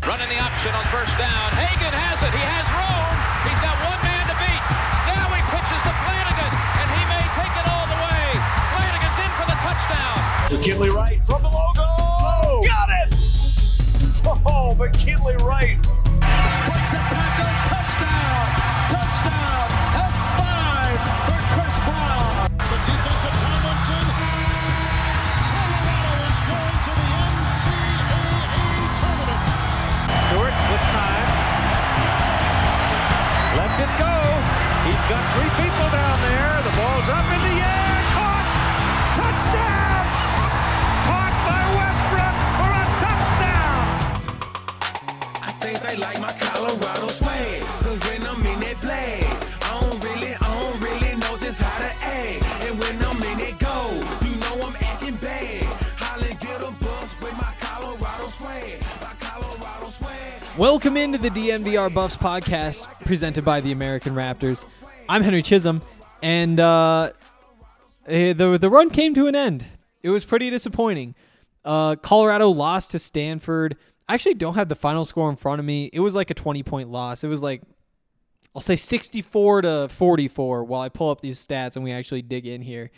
Running the option on first down. Hagan has it. He has room. He's got one man to beat. Now he pitches to Flanagan, and he may take it all the way. Flanagan's in for the touchdown. McKinley Wright from the logo. Oh, got it! Oh, McKinley Wright. Breaks a tackle. Touchdown. Touchdown. That's 5 for Chris Brown. The defensive Tomlinson. Colorado is going to the NCAA tournament. Stewart with time. Lets it go. He's got 3 people down there. The ball's up in the air. Caught. Touchdown. Caught by Westbrook for a touchdown. I think they like my Colorado swag. Cause when I'm in that play, I don't really know just how to act. And when I'm in it go, you know I'm acting bad. Holly get a bus with my Colorado swag. My Colorado swag. Welcome into the DNVR Buffs podcast presented by the American Raptors. I'm Henry Chisholm, and the run came to an end. It was pretty disappointing. Colorado lost to Stanford. I actually don't have the final score in front of me. It was like a 20-point loss. It was like, I'll say 64-44 while I pull up these stats and we actually dig in here.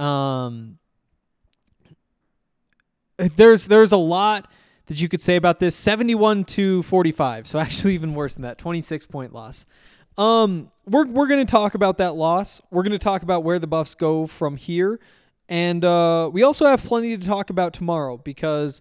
There's a lot that you could say about this. 71-45, so actually even worse than that, 26-point loss. We're going to talk about that loss. We're going to talk about where the Buffs go from here. And we also have plenty to talk about tomorrow because,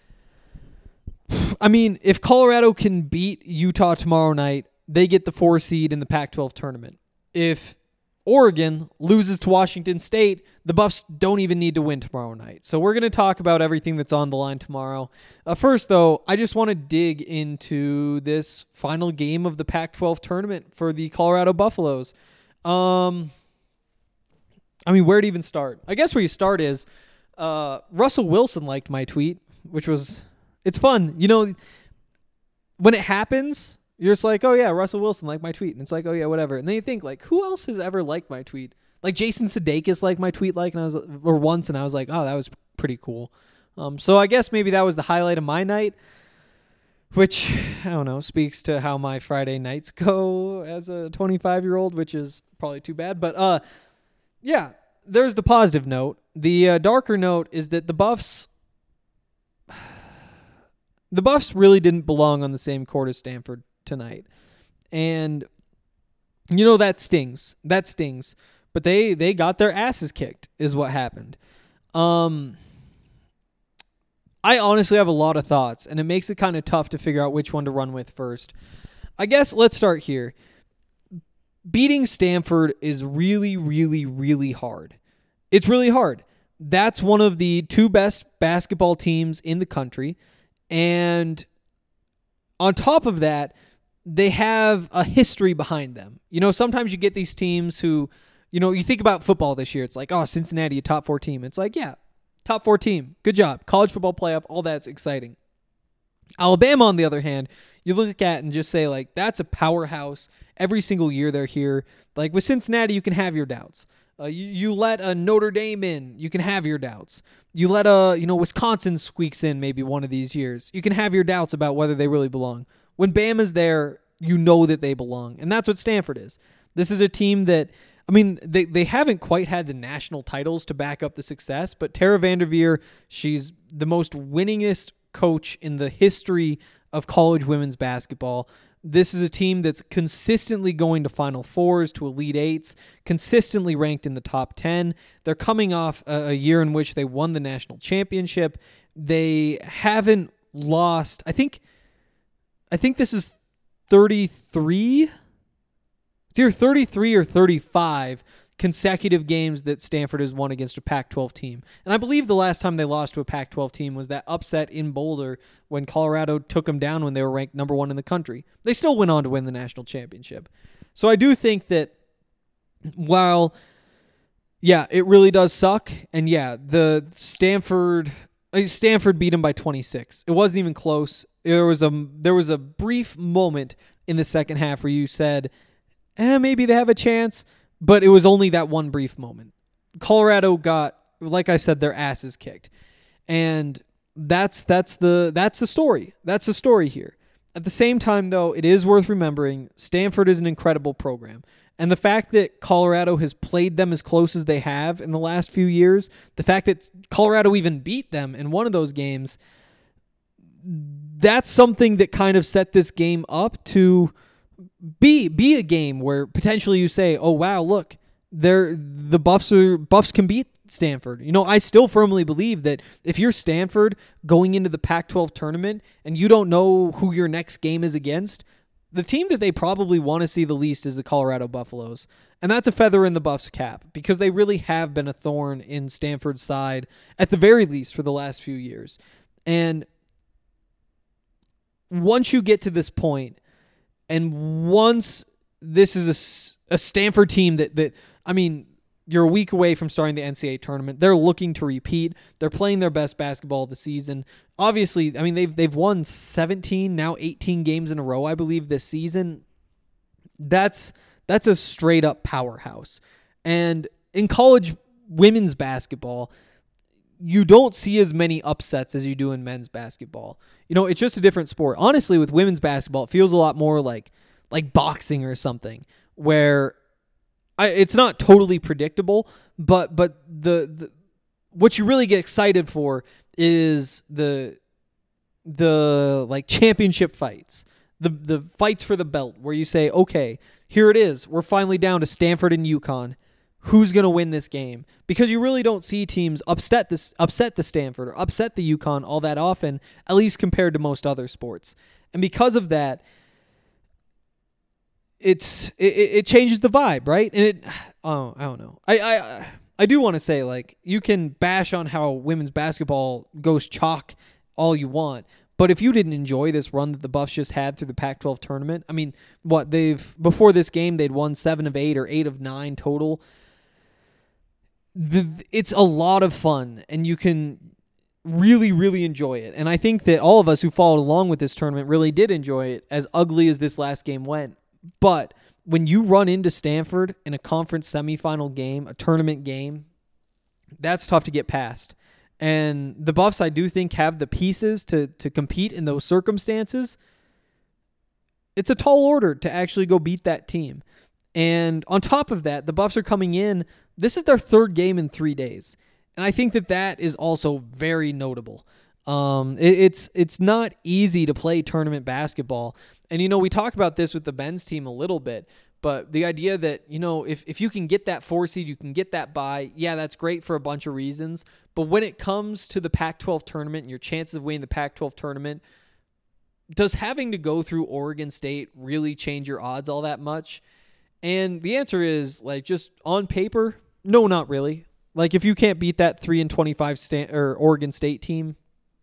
I mean, if Colorado can beat Utah tomorrow night, they get the 4 seed in the Pac-12 tournament. If Oregon loses to Washington State, the Buffs don't even need to win tomorrow night. So we're going to talk about everything that's on the line tomorrow. First, though, I just want to dig into this final game of the Pac-12 tournament for the Colorado Buffaloes. I mean, where to even start? I guess where you start is Russell Wilson liked my tweet, which was, it's fun. You know, when it happens, you're just like, oh yeah, Russell Wilson liked my tweet. And it's like, oh yeah, whatever. And then you think, like, who else has ever liked my tweet? Like Jason Sudeikis liked my tweet once, and I was like, oh, that was pretty cool. So I guess maybe that was the highlight of my night, which, I don't know, speaks to how my Friday nights go as a 25-year-old, which is probably too bad. But yeah, there's the positive note. The darker note is that the Buffs really didn't belong on the same court as Stanford tonight. And, you know, that stings. That stings. But they got their asses kicked is what happened. I honestly have a lot of thoughts, and it makes it kind of tough to figure out which one to run with first. I guess let's start here. Beating Stanford is really, really, really hard. It's really hard. That's one of the 2 best basketball teams in the country. And on top of that, they have a history behind them. You know, sometimes you get these teams who, you know, you think about football this year. It's like, oh, Cincinnati, a top 4 team. It's like, yeah, top 4 team. Good job. College football playoff, all that's exciting. Alabama, on the other hand, you look at and just say, like, that's a powerhouse. Every single year they're here. Like, with Cincinnati, you can have your doubts. You let a Notre Dame in, you can have your doubts. You let Wisconsin squeaks in maybe one of these years. You can have your doubts about whether they really belong. When Bama's there, you know that they belong. And that's what Stanford is. This is a team that, I mean, they haven't quite had the national titles to back up the success, but Tara Vanderveer, she's the most winningest coach in the history of college women's basketball. This is a team that's consistently going to Final Fours, to Elite Eights, consistently ranked in the top 10. They're coming off a year in which they won the national championship. They haven't lost. I think this is 33. It's either 33 or 35 consecutive games that Stanford has won against a Pac-12 team. And I believe the last time they lost to a Pac-12 team was that upset in Boulder when Colorado took them down when they were ranked number 1 in the country. They still went on to win the national championship. So I do think that while, yeah, it really does suck, and yeah, the Stanford beat them by 26. It wasn't even close. There was a brief moment in the second half where you said, maybe they have a chance, but it was only that one brief moment. Colorado got, like I said, their asses kicked. And that's the story. That's the story here. At the same time, though, it is worth remembering Stanford is an incredible program. And the fact that Colorado has played them as close as they have in the last few years, the fact that Colorado even beat them in one of those games, that's something that kind of set this game up to be a game where potentially you say, oh, wow, look, the Buffs can beat Stanford. You know, I still firmly believe that if you're Stanford going into the Pac-12 tournament and you don't know who your next game is against, the team that they probably want to see the least is the Colorado Buffaloes. And that's a feather in the Buffs' cap because they really have been a thorn in Stanford's side, at the very least, for the last few years. And once you get to this point, and once this is a Stanford team that I mean, you're a week away from starting the NCAA tournament. They're looking to repeat. They're playing their best basketball of the season. Obviously, I mean, they've won 17, now 18 games in a row, I believe, this season. That's a straight up powerhouse. And in college women's basketball, you don't see as many upsets as you do in men's basketball. You know, it's just a different sport. Honestly, with women's basketball, it feels a lot more like boxing or something, where it's not totally predictable, but the what you really get excited for is the like championship fights, the fights for the belt, where you say, okay, here it is. We're finally down to Stanford and UConn. Who's going to win this game? Because you really don't see teams upset the Stanford or upset the UConn all that often, at least compared to most other sports. And because of that, it changes the vibe, right? And I don't know. I do want to say, like, you can bash on how women's basketball goes chalk all you want, but if you didn't enjoy this run that the Buffs just had through the Pac-12 tournament, I mean, before this game they'd won 7 of 8 or 8 of 9 total. It's a lot of fun, and you can really, really enjoy it. And I think that all of us who followed along with this tournament really did enjoy it, as ugly as this last game went. But when you run into Stanford in a conference semifinal game, a tournament game, that's tough to get past. And the Buffs, I do think, have the pieces to compete in those circumstances. It's a tall order to actually go beat that team. And on top of that, the Buffs are coming in. This is their third game in 3 days. And I think that is also very notable. It's not easy to play tournament basketball. And, you know, we talk about this with the men's team a little bit, but the idea that, you know, if you can get that 4 seed, you can get that bye, yeah, that's great for a bunch of reasons. But when it comes to the Pac-12 tournament and your chances of winning the Pac-12 tournament, does having to go through Oregon State really change your odds all that much? And the answer is, like, just on paper, no, not really. Like, if you can't beat that 3-25 Oregon State team,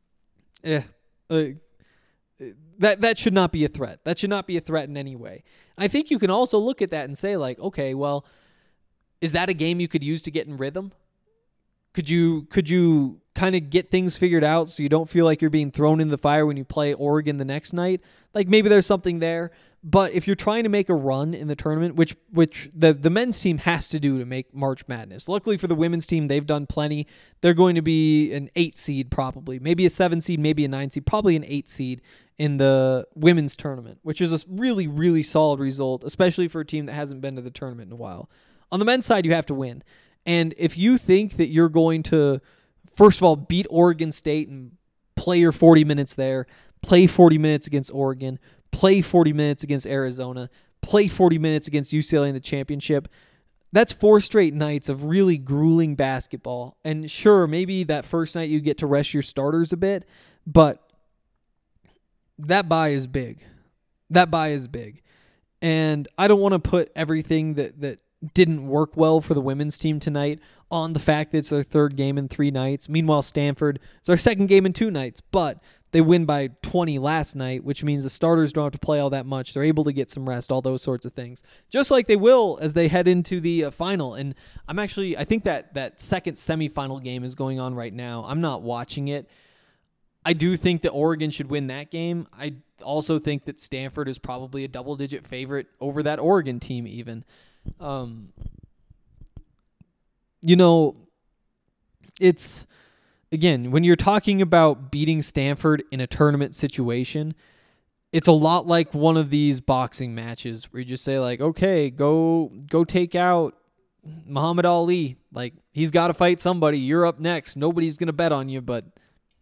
that should not be a threat. That should not be a threat in any way. I think you can also look at that and say, like, okay, well, is that a game you could use to get in rhythm? Could you kind of get things figured out so you don't feel like you're being thrown in the fire when you play Oregon the next night? Like, maybe there's something there. But if you're trying to make a run in the tournament, which the men's team has to do to make March Madness. Luckily for the women's team, they've done plenty. They're going to be an 8 seed probably, maybe a 7 seed, maybe a 9 seed, probably an 8 seed in the women's tournament, which is a really, really solid result, especially for a team that hasn't been to the tournament in a while. On the men's side, you have to win. And if you think that you're going to, first of all, beat Oregon State and play your 40 minutes there, play 40 minutes against Oregon, play 40 minutes against Arizona, play 40 minutes against UCLA in the championship, that's 4 straight nights of really grueling basketball. And sure, maybe that first night you get to rest your starters a bit, but that bye is big. That bye is big. And I don't want to put everything that didn't work well for the women's team tonight on the fact that it's their third game in 3 nights. Meanwhile, Stanford, it's their second game in 2 nights, but they win by 20 last night, which means the starters don't have to play all that much. They're able to get some rest, all those sorts of things. Just like they will as they head into the final. And I think that second semifinal game is going on right now. I'm not watching it. I do think that Oregon should win that game. I also think that Stanford is probably a double-digit favorite over that Oregon team even. You know, it's, again, when you're talking about beating Stanford in a tournament situation, it's a lot like one of these boxing matches where you just say like, okay, go take out Muhammad Ali. Like, he's got to fight somebody. You're up next. Nobody's going to bet on you, but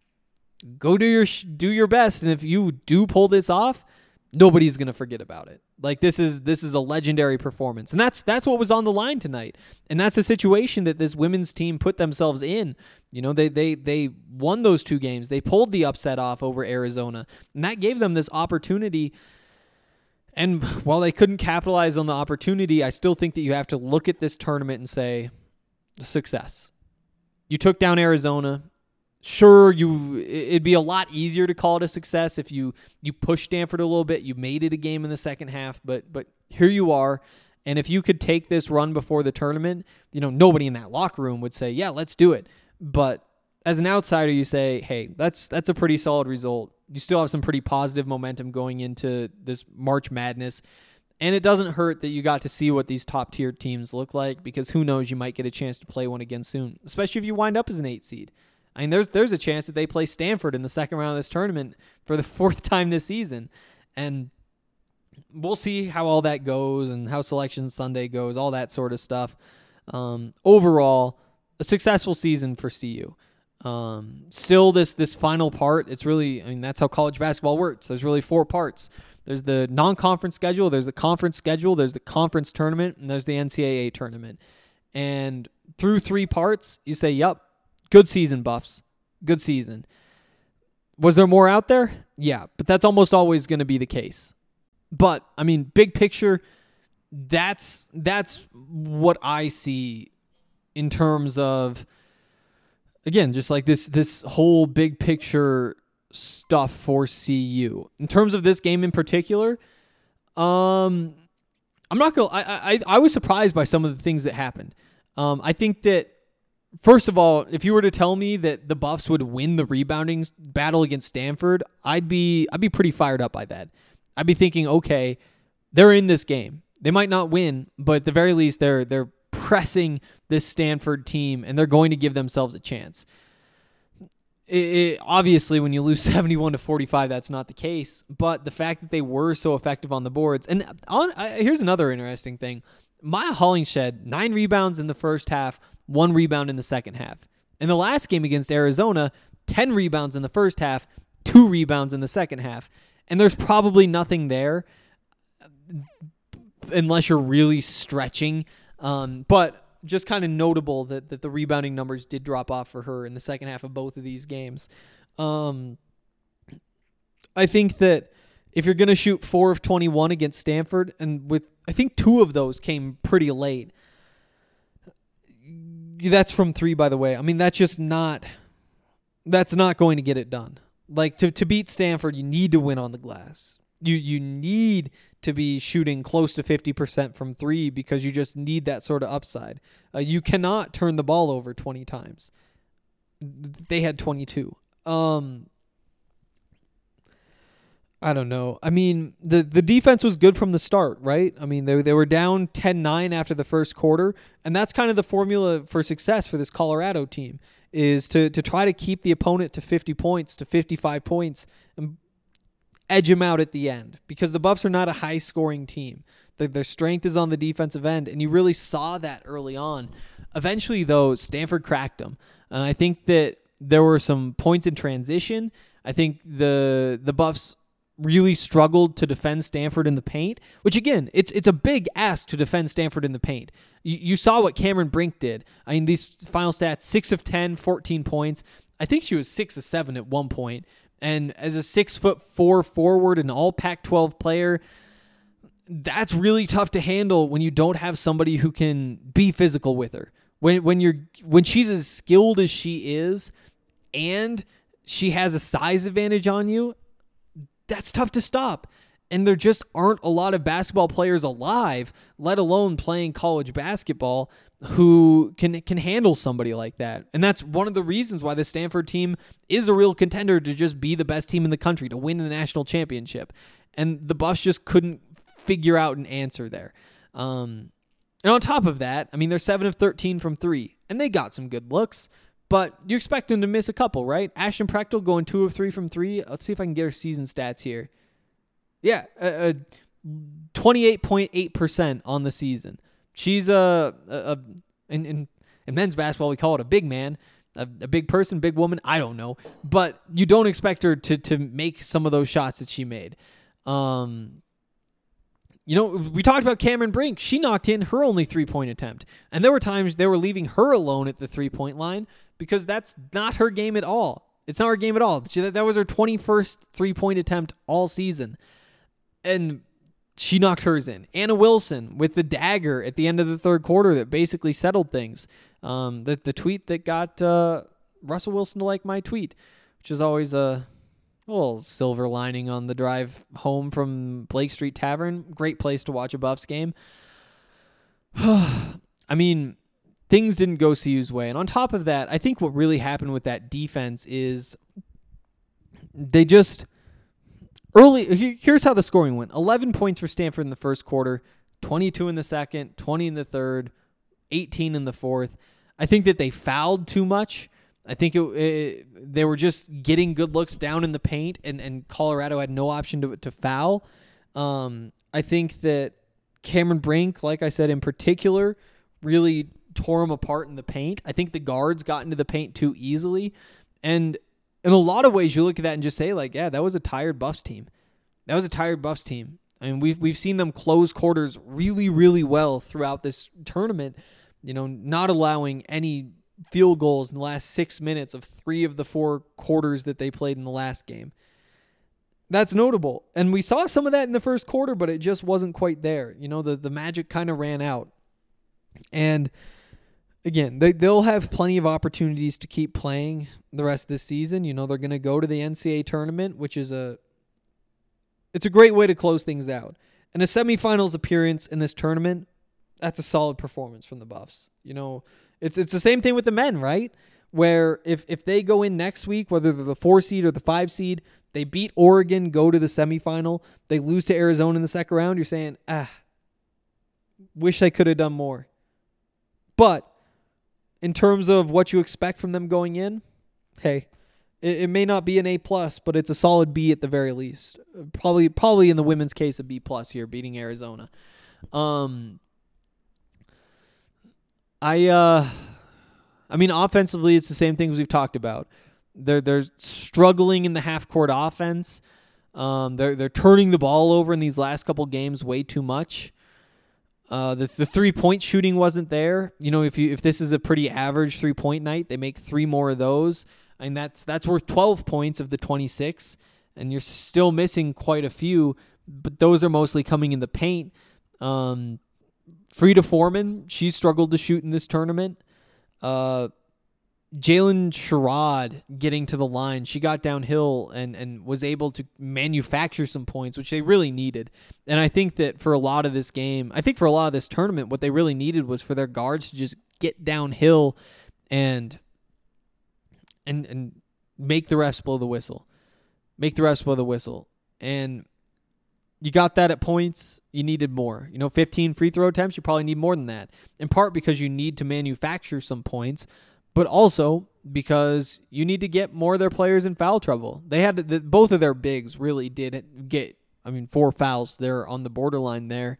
go do your best. And if you do pull this off, nobody's going to forget about it. Like, this is a legendary performance. And that's what was on the line tonight. And that's the situation that this women's team put themselves in. You know, they won those 2 games. They pulled the upset off over Arizona. And that gave them this opportunity. And while they couldn't capitalize on the opportunity, I still think that you have to look at this tournament and say, success. You took down Arizona. Sure, it'd be a lot easier to call it a success if you pushed Stanford a little bit. You made it a game in the second half, but here you are. And if you could take this run before the tournament, you know, nobody in that locker room would say, yeah, let's do it. But as an outsider, you say, hey, that's a pretty solid result. You still have some pretty positive momentum going into this March Madness. And it doesn't hurt that you got to see what these top-tier teams look like, because who knows, you might get a chance to play one again soon, especially if you wind up as an 8 seed. I mean, there's a chance that they play Stanford in the second round of this tournament for the 4th time this season. And we'll see how all that goes and how Selection Sunday goes, all that sort of stuff. Overall, a successful season for CU. Still this final part, it's really, I mean, that's how college basketball works. There's really 4 parts. There's the non-conference schedule, there's the conference schedule, there's the conference tournament, and there's the NCAA tournament. And through 3 parts, you say, yep, good season, Buffs. Good season. Was there more out there? Yeah, but that's almost always going to be the case. But, I mean, big picture, that's what I see in terms of, again, just like this whole big picture stuff for CU. In terms of this game in particular, I'm not going to, I was surprised by some of the things that happened. I think that, first of all, if you were to tell me that the Buffs would win the rebounding battle against Stanford, I'd be pretty fired up by that. I'd be thinking, okay, they're in this game. They might not win, but at the very least, they're pressing this Stanford team, and they're going to give themselves a chance. Obviously, when you lose 71-45, that's not the case. But the fact that they were so effective on the boards, and here's another interesting thing: Maya Hollingshed, 9 rebounds in the first half, 1 rebound in the second half. In the last game against Arizona, 10 rebounds in the first half, 2 rebounds in the second half. And there's probably nothing there unless you're really stretching. But just kind of notable that the rebounding numbers did drop off for her in the second half of both of these games. I think that if you're going to shoot 4 of 21 against Stanford, and I think 2 of those came pretty late. That's from 3, by the way. I mean, that's not going to get it done. Like, to beat Stanford, you need to win on the glass. You need to be shooting close to 50% from 3 because you just need that sort of upside. You cannot turn the ball over 20 times. They had 22. I don't know. I mean, the defense was good from the start, right? I mean, they were down 10-9 after the first quarter, and that's kind of the formula for success for this Colorado team, is to try to keep the opponent to 50 points, to 55 points, and edge them out at the end, because the Buffs are not a high-scoring team. Their strength is on the defensive end, and you really saw that early on. Eventually, though, Stanford cracked them, and I think that there were some points in transition. I think the Buffs really struggled to defend Stanford in the paint, which, again, it's a big ask to defend Stanford in the paint. You saw what Cameron Brink did. I mean, these final stats, 6 of 10, 14 points. I think she was 6 of 7 at one point. And as a 6'4" forward, an all Pac-12 player, that's really tough to handle when you don't have somebody who can be physical with her. When she's as skilled as she is, and she has a size advantage on you, that's tough to stop. And there just aren't a lot of basketball players alive, let alone playing college basketball, who can handle somebody like that. And that's one of the reasons why the Stanford team is a real contender to just be the best team in the country, to win the national championship. And the Buffs just couldn't figure out an answer there. And on top of that, I mean, they're 7 of 13 from 3, and they got some good looks. But you expect them to miss a couple, right? Ashton Prechtel going 2 of 3 from 3. Let's see if I can get her season stats here. Yeah, 28.8% on the season. She's in men's basketball we call it a big man, a big person, big woman. I don't know, but you don't expect her to make some of those shots that she made. We talked about Cameron Brink. She knocked in her only 3-point attempt, and there were times they were leaving her alone at the 3-point line because that's not her game at all. It's not her game at all. That was her 21st 3-point attempt all season. And she knocked hers in. Anna Wilson with the dagger at the end of the third quarter that basically settled things. The tweet that got Russell Wilson to like my tweet, which is always a little silver lining on the drive home from Blake Street Tavern. Great place to watch a Buffs game. I mean, things didn't go CU's way. And on top of that, I think what really happened with that defense is they just... here's how the scoring went. 11 points for Stanford in the first quarter, 22 in the second, 20 in the third, 18 in the fourth. I think that they fouled too much. I think they were just getting good looks down in the paint, and Colorado had no option to foul. I think that Cameron Brink, like I said in particular, really tore him apart in the paint. I think the guards got into the paint too easily, and in a lot of ways, you look at that and just say, like, yeah, that was a tired Buffs team. That was a tired Buffs team. I mean, we've seen them close quarters really, really well throughout this tournament, not allowing any field goals in the last 6 minutes of 3 of the 4 quarters that they played in the last game. That's notable. And we saw some of that in the first quarter, but it just wasn't quite there. The magic kind of ran out. And again, they'll have plenty of opportunities to keep playing the rest of this season. They're going to go to the NCAA tournament, which is it's a great way to close things out. And a semifinals appearance in this tournament, that's a solid performance from the Buffs. It's the same thing with the men, right? Where if they go in next week, whether they're the 4 seed or the 5 seed, they beat Oregon, go to the semifinal, they lose to Arizona in the second round, you're saying, wish they could have done more. But in terms of what you expect from them going in, hey, it may not be an A+, but it's a solid B at the very least. Probably in the women's case, a B+ here, beating Arizona. I mean, offensively, it's the same things we've talked about. They're struggling in the half-court offense. They're turning the ball over in these last couple games way too much. The 3-point shooting wasn't there. If this is a pretty average 3-point night, they make 3 more of those. And that's worth 12 points of the 26, and you're still missing quite a few, but those are mostly coming in the paint. Frida Foreman, she struggled to shoot in this tournament. Jalen Sherrod getting to the line. She got downhill and was able to manufacture some points, which they really needed. And I think that for a lot of this game, for a lot of this tournament, what they really needed was for their guards to just get downhill and make the refs blow the whistle. And you got that at points. You needed more. 15 free throw attempts, you probably need more than that. In part because you need to manufacture some points, but also because you need to get more of their players in foul trouble. They had both of their bigs really did get, 4 fouls. They're on the borderline there.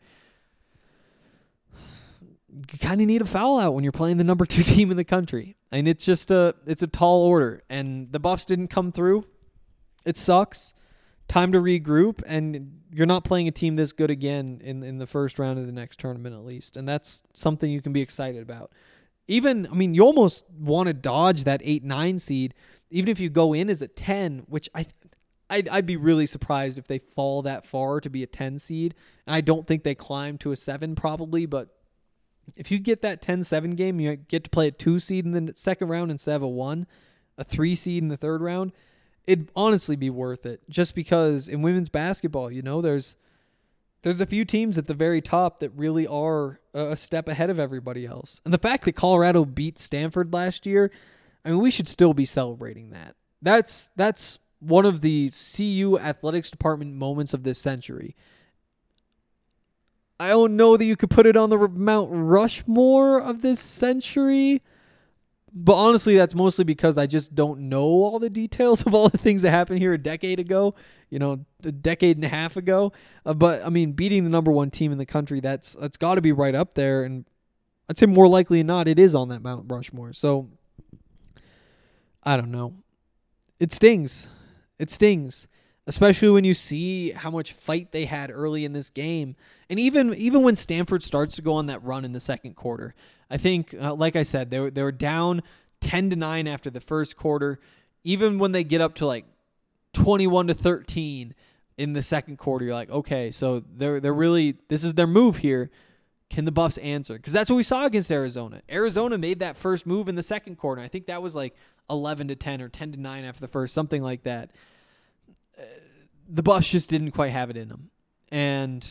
You kind of need a foul out when you're playing the number 2 team in the country. It's just it's a tall order, and the Buffs didn't come through. It sucks. Time to regroup, and you're not playing a team this good again in the first round of the next tournament at least, and that's something you can be excited about. You almost want to dodge that 8-9 seed, even if you go in as a 10, which I'd be really surprised if they fall that far to be a 10 seed. And I don't think they climb to a 7 probably, but if you get that 10-7 game, you get to play a 2 seed in the second round instead of a 1, a 3 seed in the third round, it'd honestly be worth it. Just because in women's basketball, there's a few teams at the very top that really are a step ahead of everybody else. And the fact that Colorado beat Stanford last year, we should still be celebrating that. That's one of the CU athletics department moments of this century. I don't know that you could put it on the Mount Rushmore of this century, But honestly, that's mostly because I just don't know all the details of all the things that happened here a decade ago, a decade and a half ago. But I mean, beating the number one team in the country, that's got to be right up there. And I'd say more likely than not, it is on that Mount Rushmore. So I don't know. It stings. It stings, especially when you see how much fight they had early in this game. And even when Stanford starts to go on that run in the second quarter, I think, like I said, they were down 10-9 after the first quarter. Even when they get up to like 21-13 in the second quarter, you're like, okay, so they're really, this is their move here. Can the Buffs answer? Because that's what we saw against Arizona. Arizona made that first move in the second quarter. I think that was like 11-10 or 10-9 after the first, something like that. The Buffs just didn't quite have it in them. And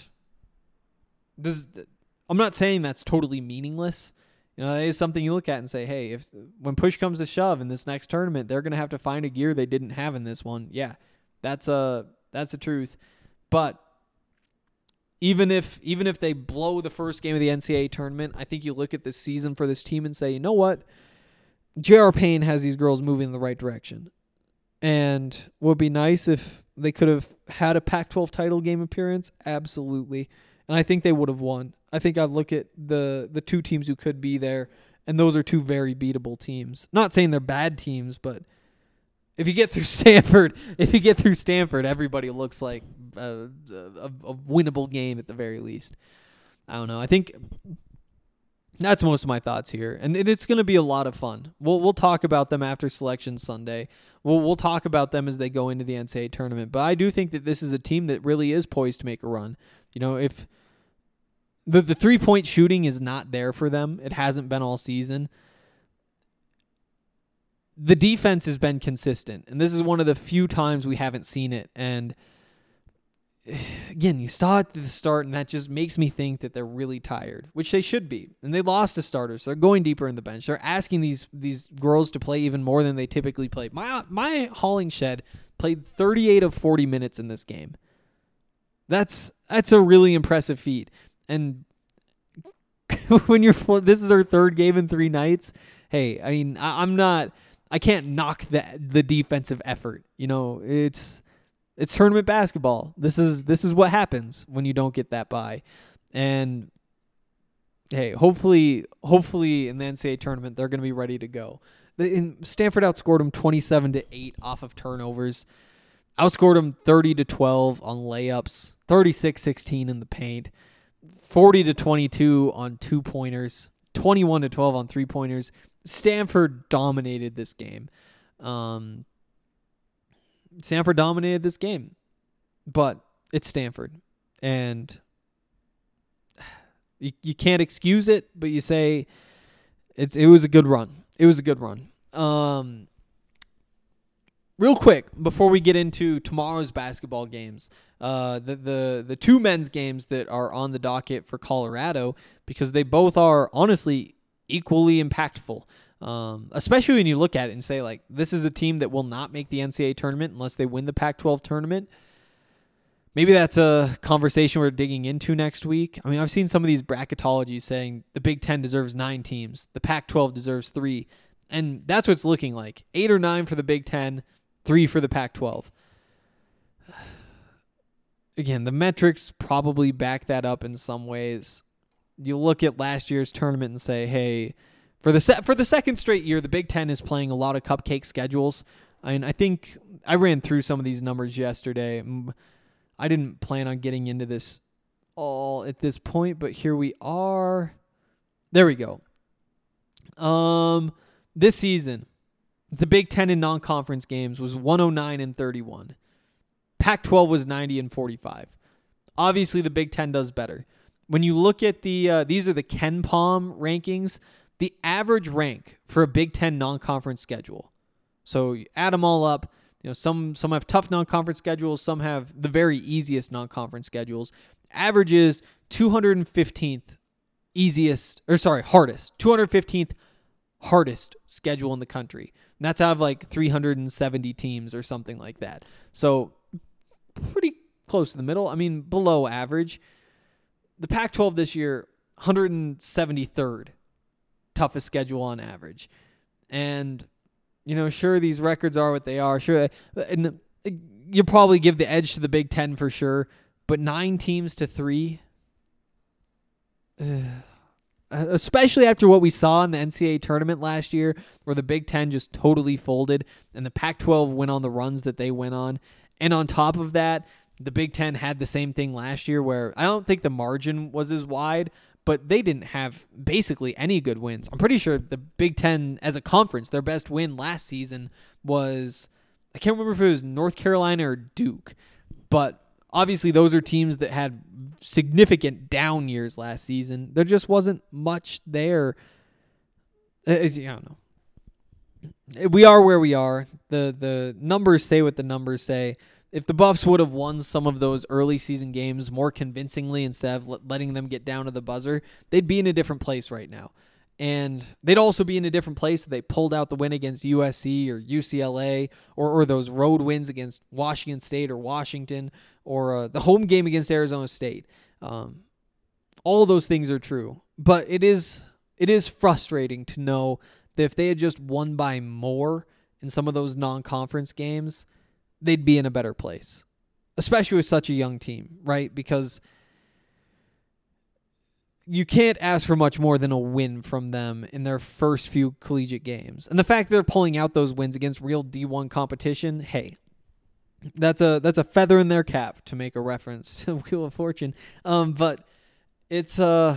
I'm not saying that's totally meaningless. That is something you look at and say, hey, when push comes to shove in this next tournament, they're going to have to find a gear they didn't have in this one. Yeah, that's the truth. But even if they blow the first game of the NCAA tournament, I think you look at this season for this team and say, you know what? J.R. Payne has these girls moving in the right direction. And would be nice if they could have had a Pac-12 title game appearance. Absolutely. And I think they would have won. I think I'd look at the two teams who could be there, and those are two very beatable teams. Not saying they're bad teams, but if you get through Stanford, everybody looks like a winnable game at the very least. I don't know. I think that's most of my thoughts here, and it's going to be a lot of fun. We'll talk about them after Selection Sunday. We'll talk about them as they go into the NCAA tournament. But I do think that this is a team that really is poised to make a run. If the 3-point shooting is not there for them, it hasn't been all season. The defense has been consistent, and this is one of the few times we haven't seen it. And again, you saw it at the start, and that just makes me think that they're really tired, which they should be. And they lost a starter, so they're going deeper in the bench. They're asking these girls to play even more than they typically play. My Hollingshed played 38 of 40 minutes in this game. That's a really impressive feat. And when this is her third game in 3 nights, hey, I mean, I can't knock the defensive effort. It's tournament basketball. This is what happens when you don't get that bye. And hey, hopefully in the NCAA tournament they're going to be ready to go. Stanford outscored them 27-8 off of turnovers. Outscored them 30-12 on layups, 36-16 in the paint, 40-22 on 2-pointers, 21-12 on 3-pointers. Stanford dominated this game. But it's Stanford, and you can't excuse it, but you say it was a good run. It was a good run. Real quick, before we get into tomorrow's basketball games, the two men's games that are on the docket for Colorado, because they both are honestly equally impactful. Especially when you look at it and say, like, this is a team that will not make the NCAA tournament unless they win the Pac-12 tournament. Maybe that's a conversation we're digging into next week. I mean, I've seen some of these bracketologies saying the Big Ten deserves 9 teams, the Pac-12 deserves 3, and that's what it's looking like. 8 or 9 for the Big Ten, 3 for the Pac-12. Again, the metrics probably back that up in some ways. You look at last year's tournament and say, hey, for the second straight year, the Big Ten is playing a lot of cupcake schedules. I think I ran through some of these numbers yesterday. I didn't plan on getting into this all at this point, but here we are. There we go. This season, the Big Ten in non-conference games was 109-31. Pac-12 was 90-45. Obviously, the Big Ten does better. When you look at these are the KenPom rankings. The average rank for a Big Ten non-conference schedule. So you add them all up. Some have tough non-conference schedules. Some have the very easiest non-conference schedules. Average is 215th hardest. 215th hardest schedule in the country. And that's out of like 370 teams or something like that. So pretty close to the middle. I mean, below average. The Pac-12 this year, 173rd toughest schedule on average. And, sure, these records are what they are. Sure, and you'll probably give the edge to the Big Ten for sure. But 9 teams to 3, especially after what we saw in the NCAA tournament last year, where the Big Ten just totally folded and the Pac-12 went on the runs that they went on. And on top of that, the Big Ten had the same thing last year where I don't think the margin was as wide, but they didn't have basically any good wins. I'm pretty sure the Big Ten as a conference, their best win last season was, I can't remember if it was North Carolina or Duke, but obviously those are teams that had significant down years last season. There just wasn't much there. I don't know. We are where we are. The numbers say what the numbers say. If the Buffs would have won some of those early season games more convincingly instead of letting them get down to the buzzer, they'd be in a different place right now. And they'd also be in a different place if they pulled out the win against USC or UCLA or those road wins against Washington State or Washington or the home game against Arizona State. All those things are true. But it is frustrating to know that if they had just won by more in some of those non-conference games, they'd be in a better place, especially with such a young team, right? Because you can't ask for much more than a win from them in their first few collegiate games. And the fact that they're pulling out those wins against real D1 competition, hey, that's a feather in their cap, to make a reference to Wheel of Fortune. But it's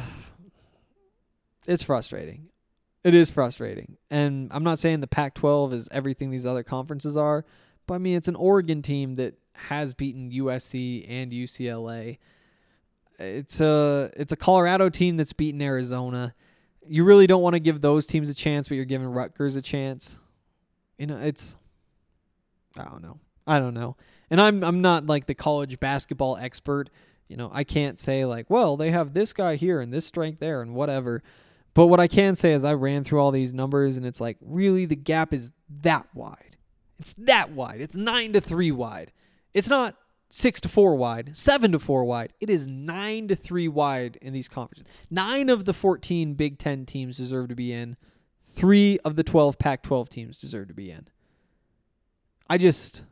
frustrating. It is frustrating. And I'm not saying the Pac-12 is everything these other conferences are, but I mean, it's an Oregon team that has beaten USC and UCLA. It's a Colorado team that's beaten Arizona. You really don't want to give those teams a chance, but you're giving Rutgers a chance. I don't know. And I'm not like the college basketball expert. I can't say like, well, they have this guy here and this strength there and whatever. But what I can say is I ran through all these numbers and it's like, really, the gap is that wide. It's that wide. It's 9-3 wide. It's not 6-4 wide, 7-4 wide. It is 9-3 wide in these conferences. 9 of the 14 Big Ten teams deserve to be in. 3 of the 12 Pac-12 teams deserve to be in. I just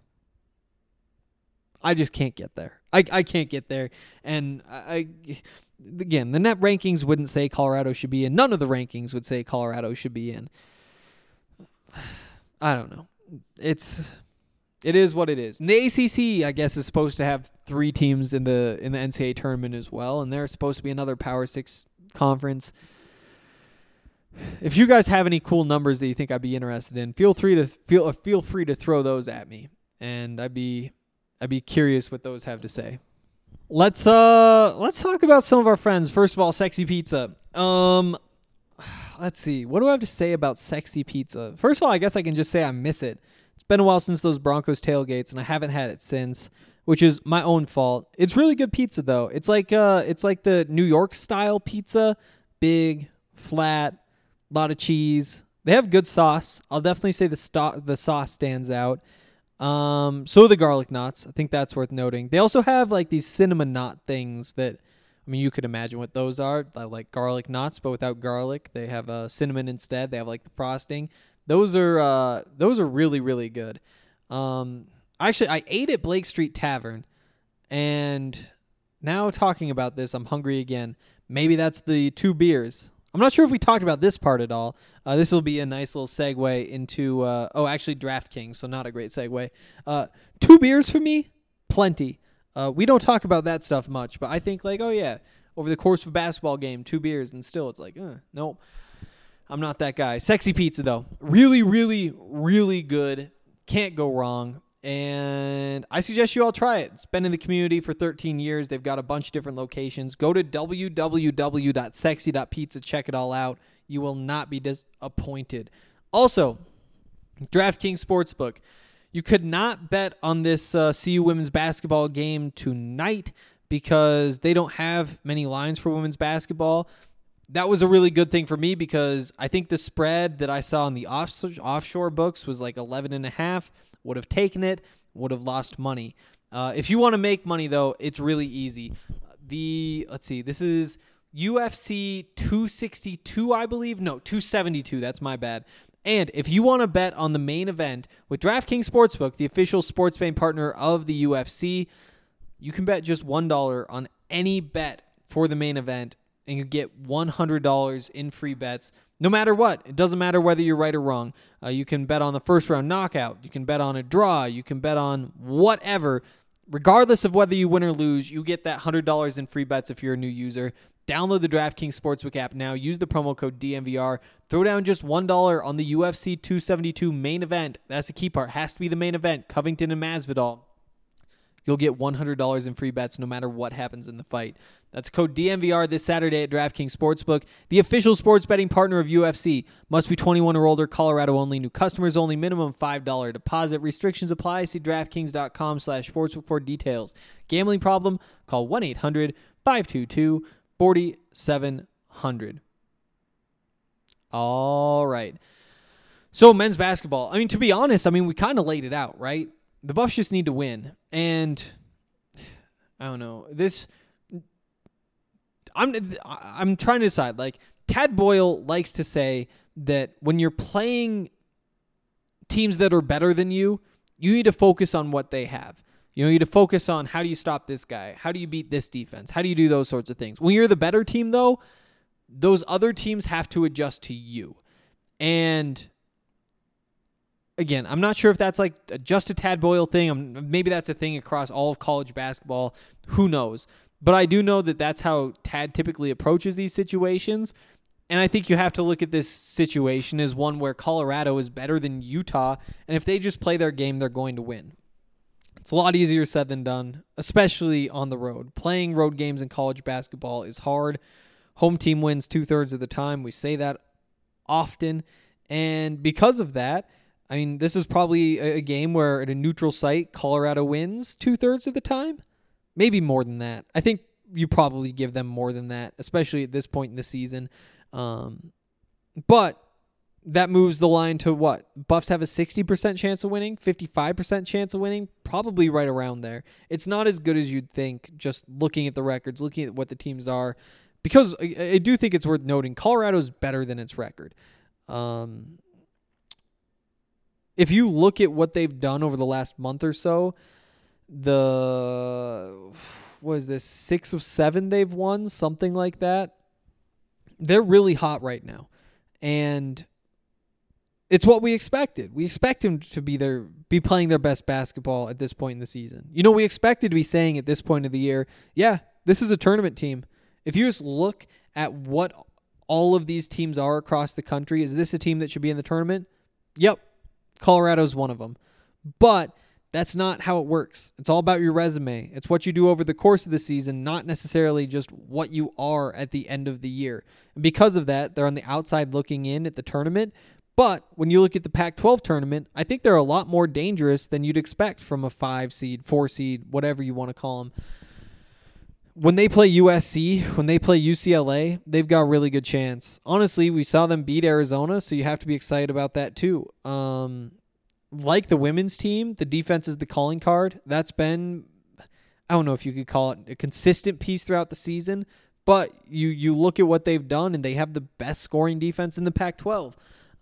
can't get there. I can't get there. And again, the net rankings wouldn't say Colorado should be in. None of the rankings would say Colorado should be in. I don't know. It is what it is. And the ACC, I guess, is supposed to have 3 teams in the NCAA tournament as well, and they're supposed to be another Power 6 conference. If you guys have any cool numbers that you think I'd be interested in, feel free to throw those at me, and I'd be curious what those have to say. Let's talk about some of our friends. First of all, Sexy Pizza. Let's see. What do I have to say about Sexy Pizza? First of all, I guess I can just say I miss it. It's been a while since those Broncos tailgates, and I haven't had it since, which is my own fault. It's really good pizza, though. It's like the New York style pizza, big, flat, a lot of cheese. They have good sauce. I'll definitely say the sauce stands out. So the garlic knots. I think that's worth noting. They also have like these cinnamon knot things that, I mean, you could imagine what those are. Like garlic knots, but without garlic. They have cinnamon instead. They have like the frosting. Those are really, really good. Actually, I ate at Blake Street Tavern, and now talking about this, I'm hungry again. Maybe that's the 2 beers. I'm not sure if we talked about this part at all. This will be a nice little segue into, actually DraftKings, so not a great segue. 2 beers for me? Plenty. We don't talk about that stuff much, but I think like, oh yeah, over the course of a basketball game, 2 beers, and still it's like, nope. I'm not that guy. Sexy Pizza, though. Really, really, really good. Can't go wrong. And I suggest you all try it. It's been in the community for 13 years. They've got a bunch of different locations. Go to www.sexy.pizza. Check it all out. You will not be disappointed. Also, DraftKings Sportsbook. You could not bet on this CU women's basketball game tonight because they don't have many lines for women's basketball. That was a really good thing for me because I think the spread that I saw in the offshore books was like 11.5. Would have taken it, would have lost money. If you want to make money, though, it's really easy. This is UFC 262, I believe. No, 272. That's my bad. And if you want to bet on the main event with DraftKings Sportsbook, the official sports betting partner of the UFC, you can bet just $1 on any bet for the main event, and you get $100 in free bets no matter what. It doesn't matter whether you're right or wrong. You can bet on the first round knockout. You can bet on a draw. You can bet on whatever. Regardless of whether you win or lose, you get that $100 in free bets if you're a new user. Download the DraftKings Sportsbook app now. Use the promo code DNVR. Throw down just $1 on the UFC 272 main event. That's the key part. Has to be the main event. Covington and Masvidal. You'll get $100 in free bets no matter what happens in the fight. That's code DNVR this Saturday at DraftKings Sportsbook, the official sports betting partner of UFC. Must be 21 or older, Colorado only, new customers only, minimum $5 deposit. Restrictions apply. See DraftKings.com/sportsbook for details. Gambling problem? Call 1-800-522-4700. All right. So men's basketball. I mean, to be honest, we kind of laid it out, right? The Buffs just need to win. And I don't know. I'm trying to decide. Like, Tad Boyle likes to say that when you're playing teams that are better than you, you need to focus on what they have. You need to focus on how do you stop this guy? How do you beat this defense? How do you do those sorts of things? When you're the better team, though, those other teams have to adjust to you. And again, I'm not sure if that's like just a Tad Boyle thing. Maybe that's a thing across all of college basketball. Who knows? But I do know that that's how Tad typically approaches these situations. And I think you have to look at this situation as one where Colorado is better than Utah. And if they just play their game, they're going to win. It's a lot easier said than done, especially on the road. Playing road games in college basketball is hard. Home team wins 2/3 of the time. We say that often. And because of that, this is probably a game where at a neutral site, Colorado wins 2/3 of the time. Maybe more than that. I think you probably give them more than that, especially at this point in the season. But that moves the line to what? Buffs have a 60% chance of winning, 55% chance of winning, probably right around there. It's not as good as you'd think just looking at the records, looking at what the teams are, because I do think it's worth noting Colorado's better than its record. If you look at what they've done over the last month or so, 6 of 7 they've won, something like that. They're really hot right now. And it's what we expected. We expect them to be playing their best basketball at this point in the season. We expected to be saying at this point of the year, yeah, this is a tournament team. If you just look at what all of these teams are across the country, is this a team that should be in the tournament? Yep. Colorado's one of them. But that's not how it works. It's all about your resume. It's what you do over the course of the season, not necessarily just what you are at the end of the year. And because of that, they're on the outside looking in at the tournament. But when you look at the Pac-12 tournament, I think they're a lot more dangerous than you'd expect from a 5 seed, 4 seed, whatever you want to call them. When they play USC, when they play UCLA, they've got a really good chance. Honestly, we saw them beat Arizona, so you have to be excited about that too. Like the women's team, the defense is the calling card. That's been, I don't know if you could call it a consistent piece throughout the season, but you look at what they've done, and they have the best scoring defense in the Pac-12.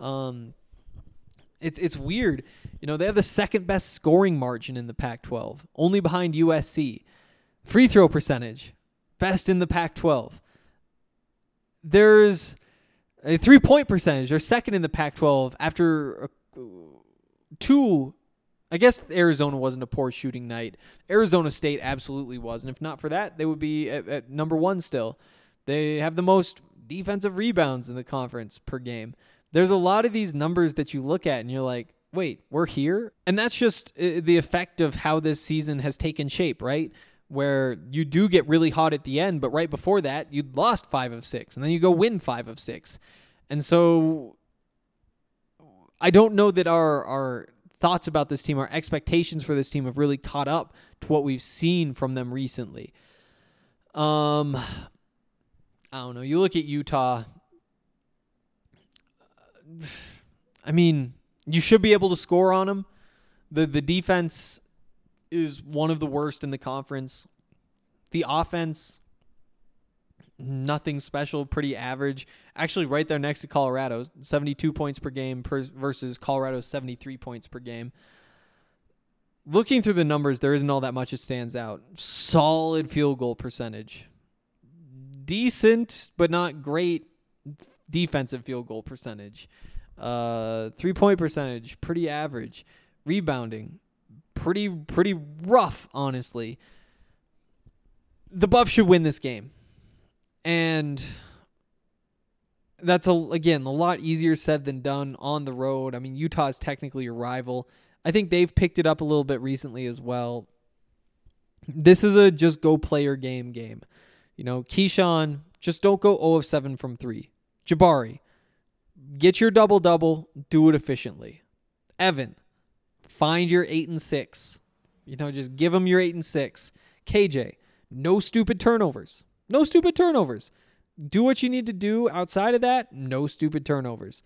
It's weird. They have the second best scoring margin in the Pac-12, only behind USC. Free throw percentage, best in the Pac-12. There's a 3-point percentage. They're second in the Pac-12 after 2. I guess Arizona wasn't a poor shooting night. Arizona State absolutely was. And if not for that, they would be at number 1 still. They have the most defensive rebounds in the conference per game. There's a lot of these numbers that you look at and you're like, wait, we're here? And that's just the effect of how this season has taken shape, right? Where you do get really hot at the end, but right before that, you'd lost 5 of 6, and then you go win 5 of 6. And so I don't know that our thoughts about this team, our expectations for this team have really caught up to what we've seen from them recently. I don't know. You look at Utah. You should be able to score on them. The defense is one of the worst in the conference. The offense nothing special, pretty average. Actually, right there next to Colorado, 72 points per game versus Colorado's 73 points per game. Looking through the numbers, there isn't all that much that stands out. Solid field goal percentage. Decent, but not great defensive field goal percentage. 3-point percentage, pretty average. Rebounding, pretty rough, honestly. The Buffs should win this game. And that's, again, a lot easier said than done on the road. I mean, Utah's technically your rival. I think they've picked it up a little bit recently as well. This is a just go play your game. You know, Keyshawn, just don't go 0 of 7 from 3. Jabari, get your double-double, do it efficiently. Evan, find your 8 and 6. You know, just give them your 8 and 6. KJ, no stupid turnovers. No stupid turnovers. Do what you need to do outside of that. No stupid turnovers.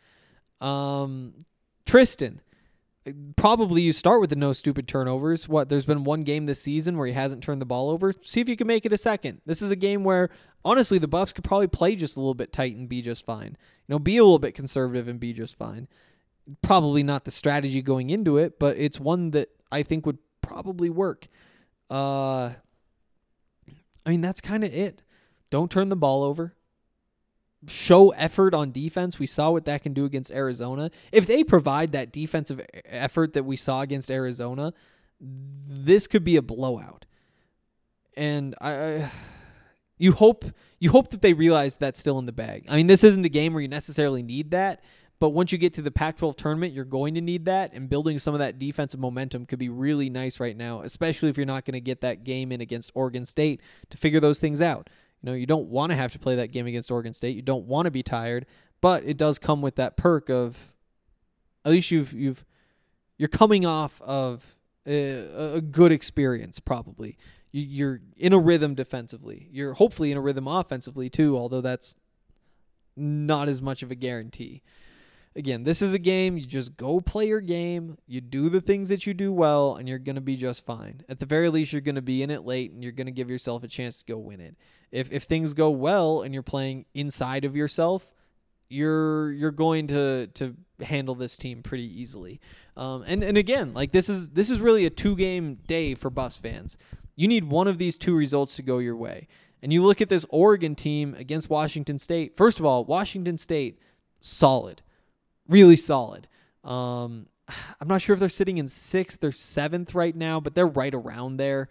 Tristan, probably you start with the no stupid turnovers. There's been one game this season where he hasn't turned the ball over. See if you can make it a second. This is a game where, honestly, the Buffs could probably play just a little bit tight and be just fine. You know, be a little bit conservative and be just fine. Probably not the strategy going into it, but it's one that I think would probably work. I mean, that's kind of it. Don't turn the ball over. Show effort on defense. We saw what that can do against Arizona. If they provide that defensive effort that we saw against Arizona, this could be a blowout. And you hope that they realize that's still in the bag. I mean, this isn't a game where you necessarily need that, but once you get to the Pac-12 tournament, you're going to need that, and building some of that defensive momentum could be really nice right now, especially if you're not going to get that game in against Oregon State to figure those things out. You know, you don't want to have to play that game against Oregon State. You don't want to be tired, but it does come with that perk of at least you're coming off of a good experience probably. You're in a rhythm defensively. You're hopefully in a rhythm offensively too, although that's not as much of a guarantee. Again, this is a game. You just go play your game. You do the things that you do well, and you're going to be just fine. At the very least, you're going to be in it late, and you're going to give yourself a chance to go win it. If things go well and you're playing inside of yourself, you're going to handle this team pretty easily. And again, like this is really a 2-game day for Buffs fans. You need one of these 2 results to go your way. And you look at this Oregon team against Washington State. First of all, Washington State, solid. Really solid. I'm not sure if they're sitting in 6th or 7th right now, but they're right around there.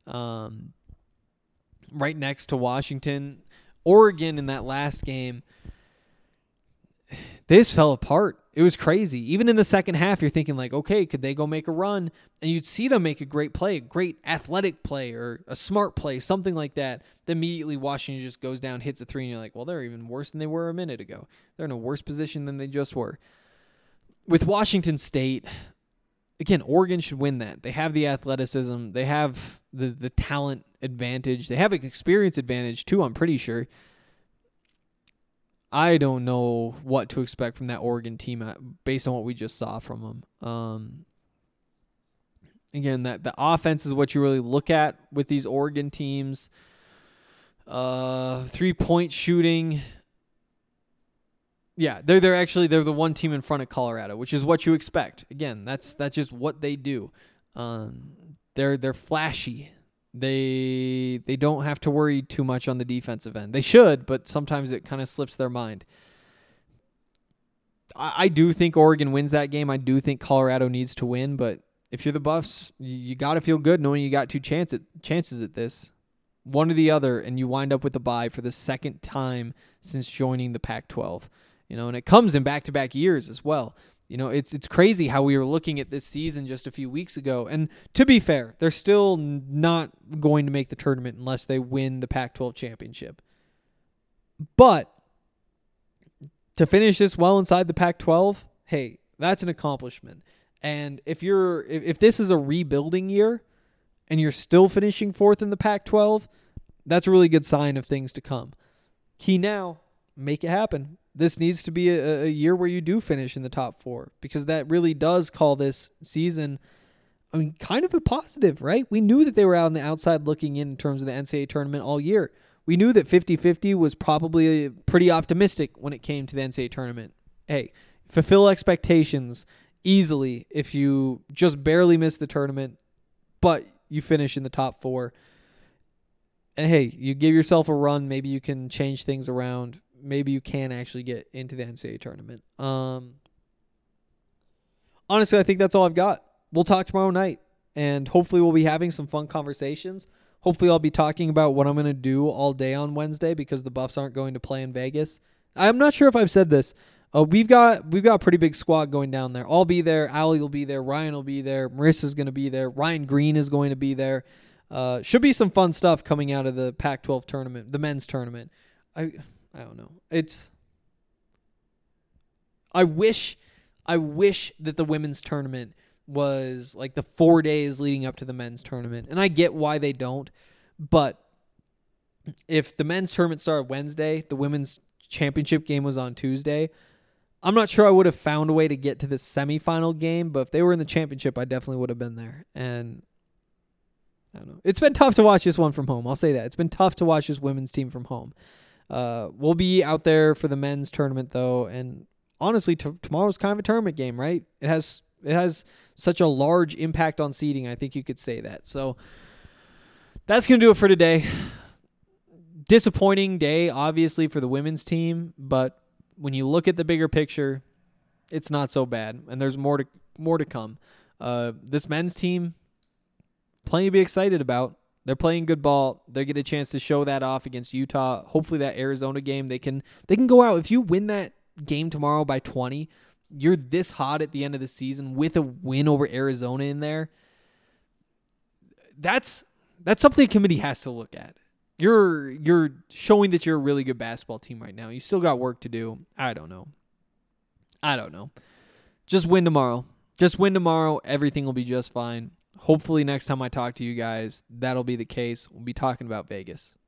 Right next to Washington. Oregon in that last game, they just fell apart. It was crazy. Even in the second half, you're thinking like, okay, could they go make a run? And you'd see them make a great play, a great athletic play or a smart play, something like that. Then immediately Washington just goes down, hits a 3, and you're like, well, they're even worse than they were a minute ago. They're in a worse position than they just were. With Washington State, again, Oregon should win that. They have the athleticism. They have the talent advantage. They have an experience advantage too, I'm pretty sure. I don't know what to expect from that Oregon team based on what we just saw from them. Again, that the offense is what you really look at with these Oregon teams. 3-point shooting. Yeah, they're the one team in front of Colorado, which is what you expect. Again, that's just what they do. They're flashy. They don't have to worry too much on the defensive end. They should, but sometimes it kind of slips their mind. I do think Oregon wins that game. I do think Colorado needs to win, but if you're the Buffs, you got to feel good knowing you got 2 chances at this. One or the other, and you wind up with a bye for the second time since joining the Pac-12. You know, and it comes in back-to-back years as well. You know, it's crazy how we were looking at this season just a few weeks ago. And to be fair, they're still not going to make the tournament unless they win the Pac-12 championship. But to finish this well inside the Pac-12, hey, that's an accomplishment. And if this is a rebuilding year and you're still finishing 4th in the Pac-12, that's a really good sign of things to come. Key now, make it happen. This needs to be a year where you do finish in the top 4 because that really does call this season, I mean, kind of a positive, right? We knew that they were out on the outside looking in terms of the NCAA tournament all year. We knew that 50-50 was probably pretty optimistic when it came to the NCAA tournament. Hey, fulfill expectations easily if you just barely miss the tournament, but you finish in the top 4. And hey, you give yourself a run. Maybe you can change things around. Maybe you can actually get into the NCAA tournament. Honestly, I think that's all I've got. We'll talk tomorrow night, and hopefully we'll be having some fun conversations. Hopefully I'll be talking about what I'm going to do all day on Wednesday because the Buffs aren't going to play in Vegas. I'm not sure if I've said this. We've got a pretty big squad going down there. I'll be there. Allie will be there. Ryan will be there. Marissa's going to be there. Ryan Green is going to be there. Should be some fun stuff coming out of the Pac-12 tournament, the men's tournament. I don't know. I wish that the women's tournament was like the 4 days leading up to the men's tournament. And I get why they don't. But if the men's tournament started Wednesday, the women's championship game was on Tuesday, I'm not sure I would have found a way to get to the semifinal game. But if they were in the championship, I definitely would have been there. And I don't know. It's been tough to watch this one from home. I'll say that. It's been tough to watch this women's team from home. We'll be out there for the men's tournament, though. And honestly, tomorrow's kind of a tournament game, right? It has such a large impact on seeding. I think you could say that. So that's going to do it for today. Disappointing day, obviously, for the women's team. But when you look at the bigger picture, it's not so bad. And there's more to come. This men's team, plenty to be excited about. They're playing good ball. They get a chance to show that off against Utah. Hopefully that Arizona game, they can go out. If you win that game tomorrow by 20, you're this hot at the end of the season with a win over Arizona in there. That's something the committee has to look at. You're showing that you're a really good basketball team right now. You still got work to do. I don't know. Just win tomorrow. Everything will be just fine. Hopefully next time I talk to you guys, that'll be the case. We'll be talking about Vegas.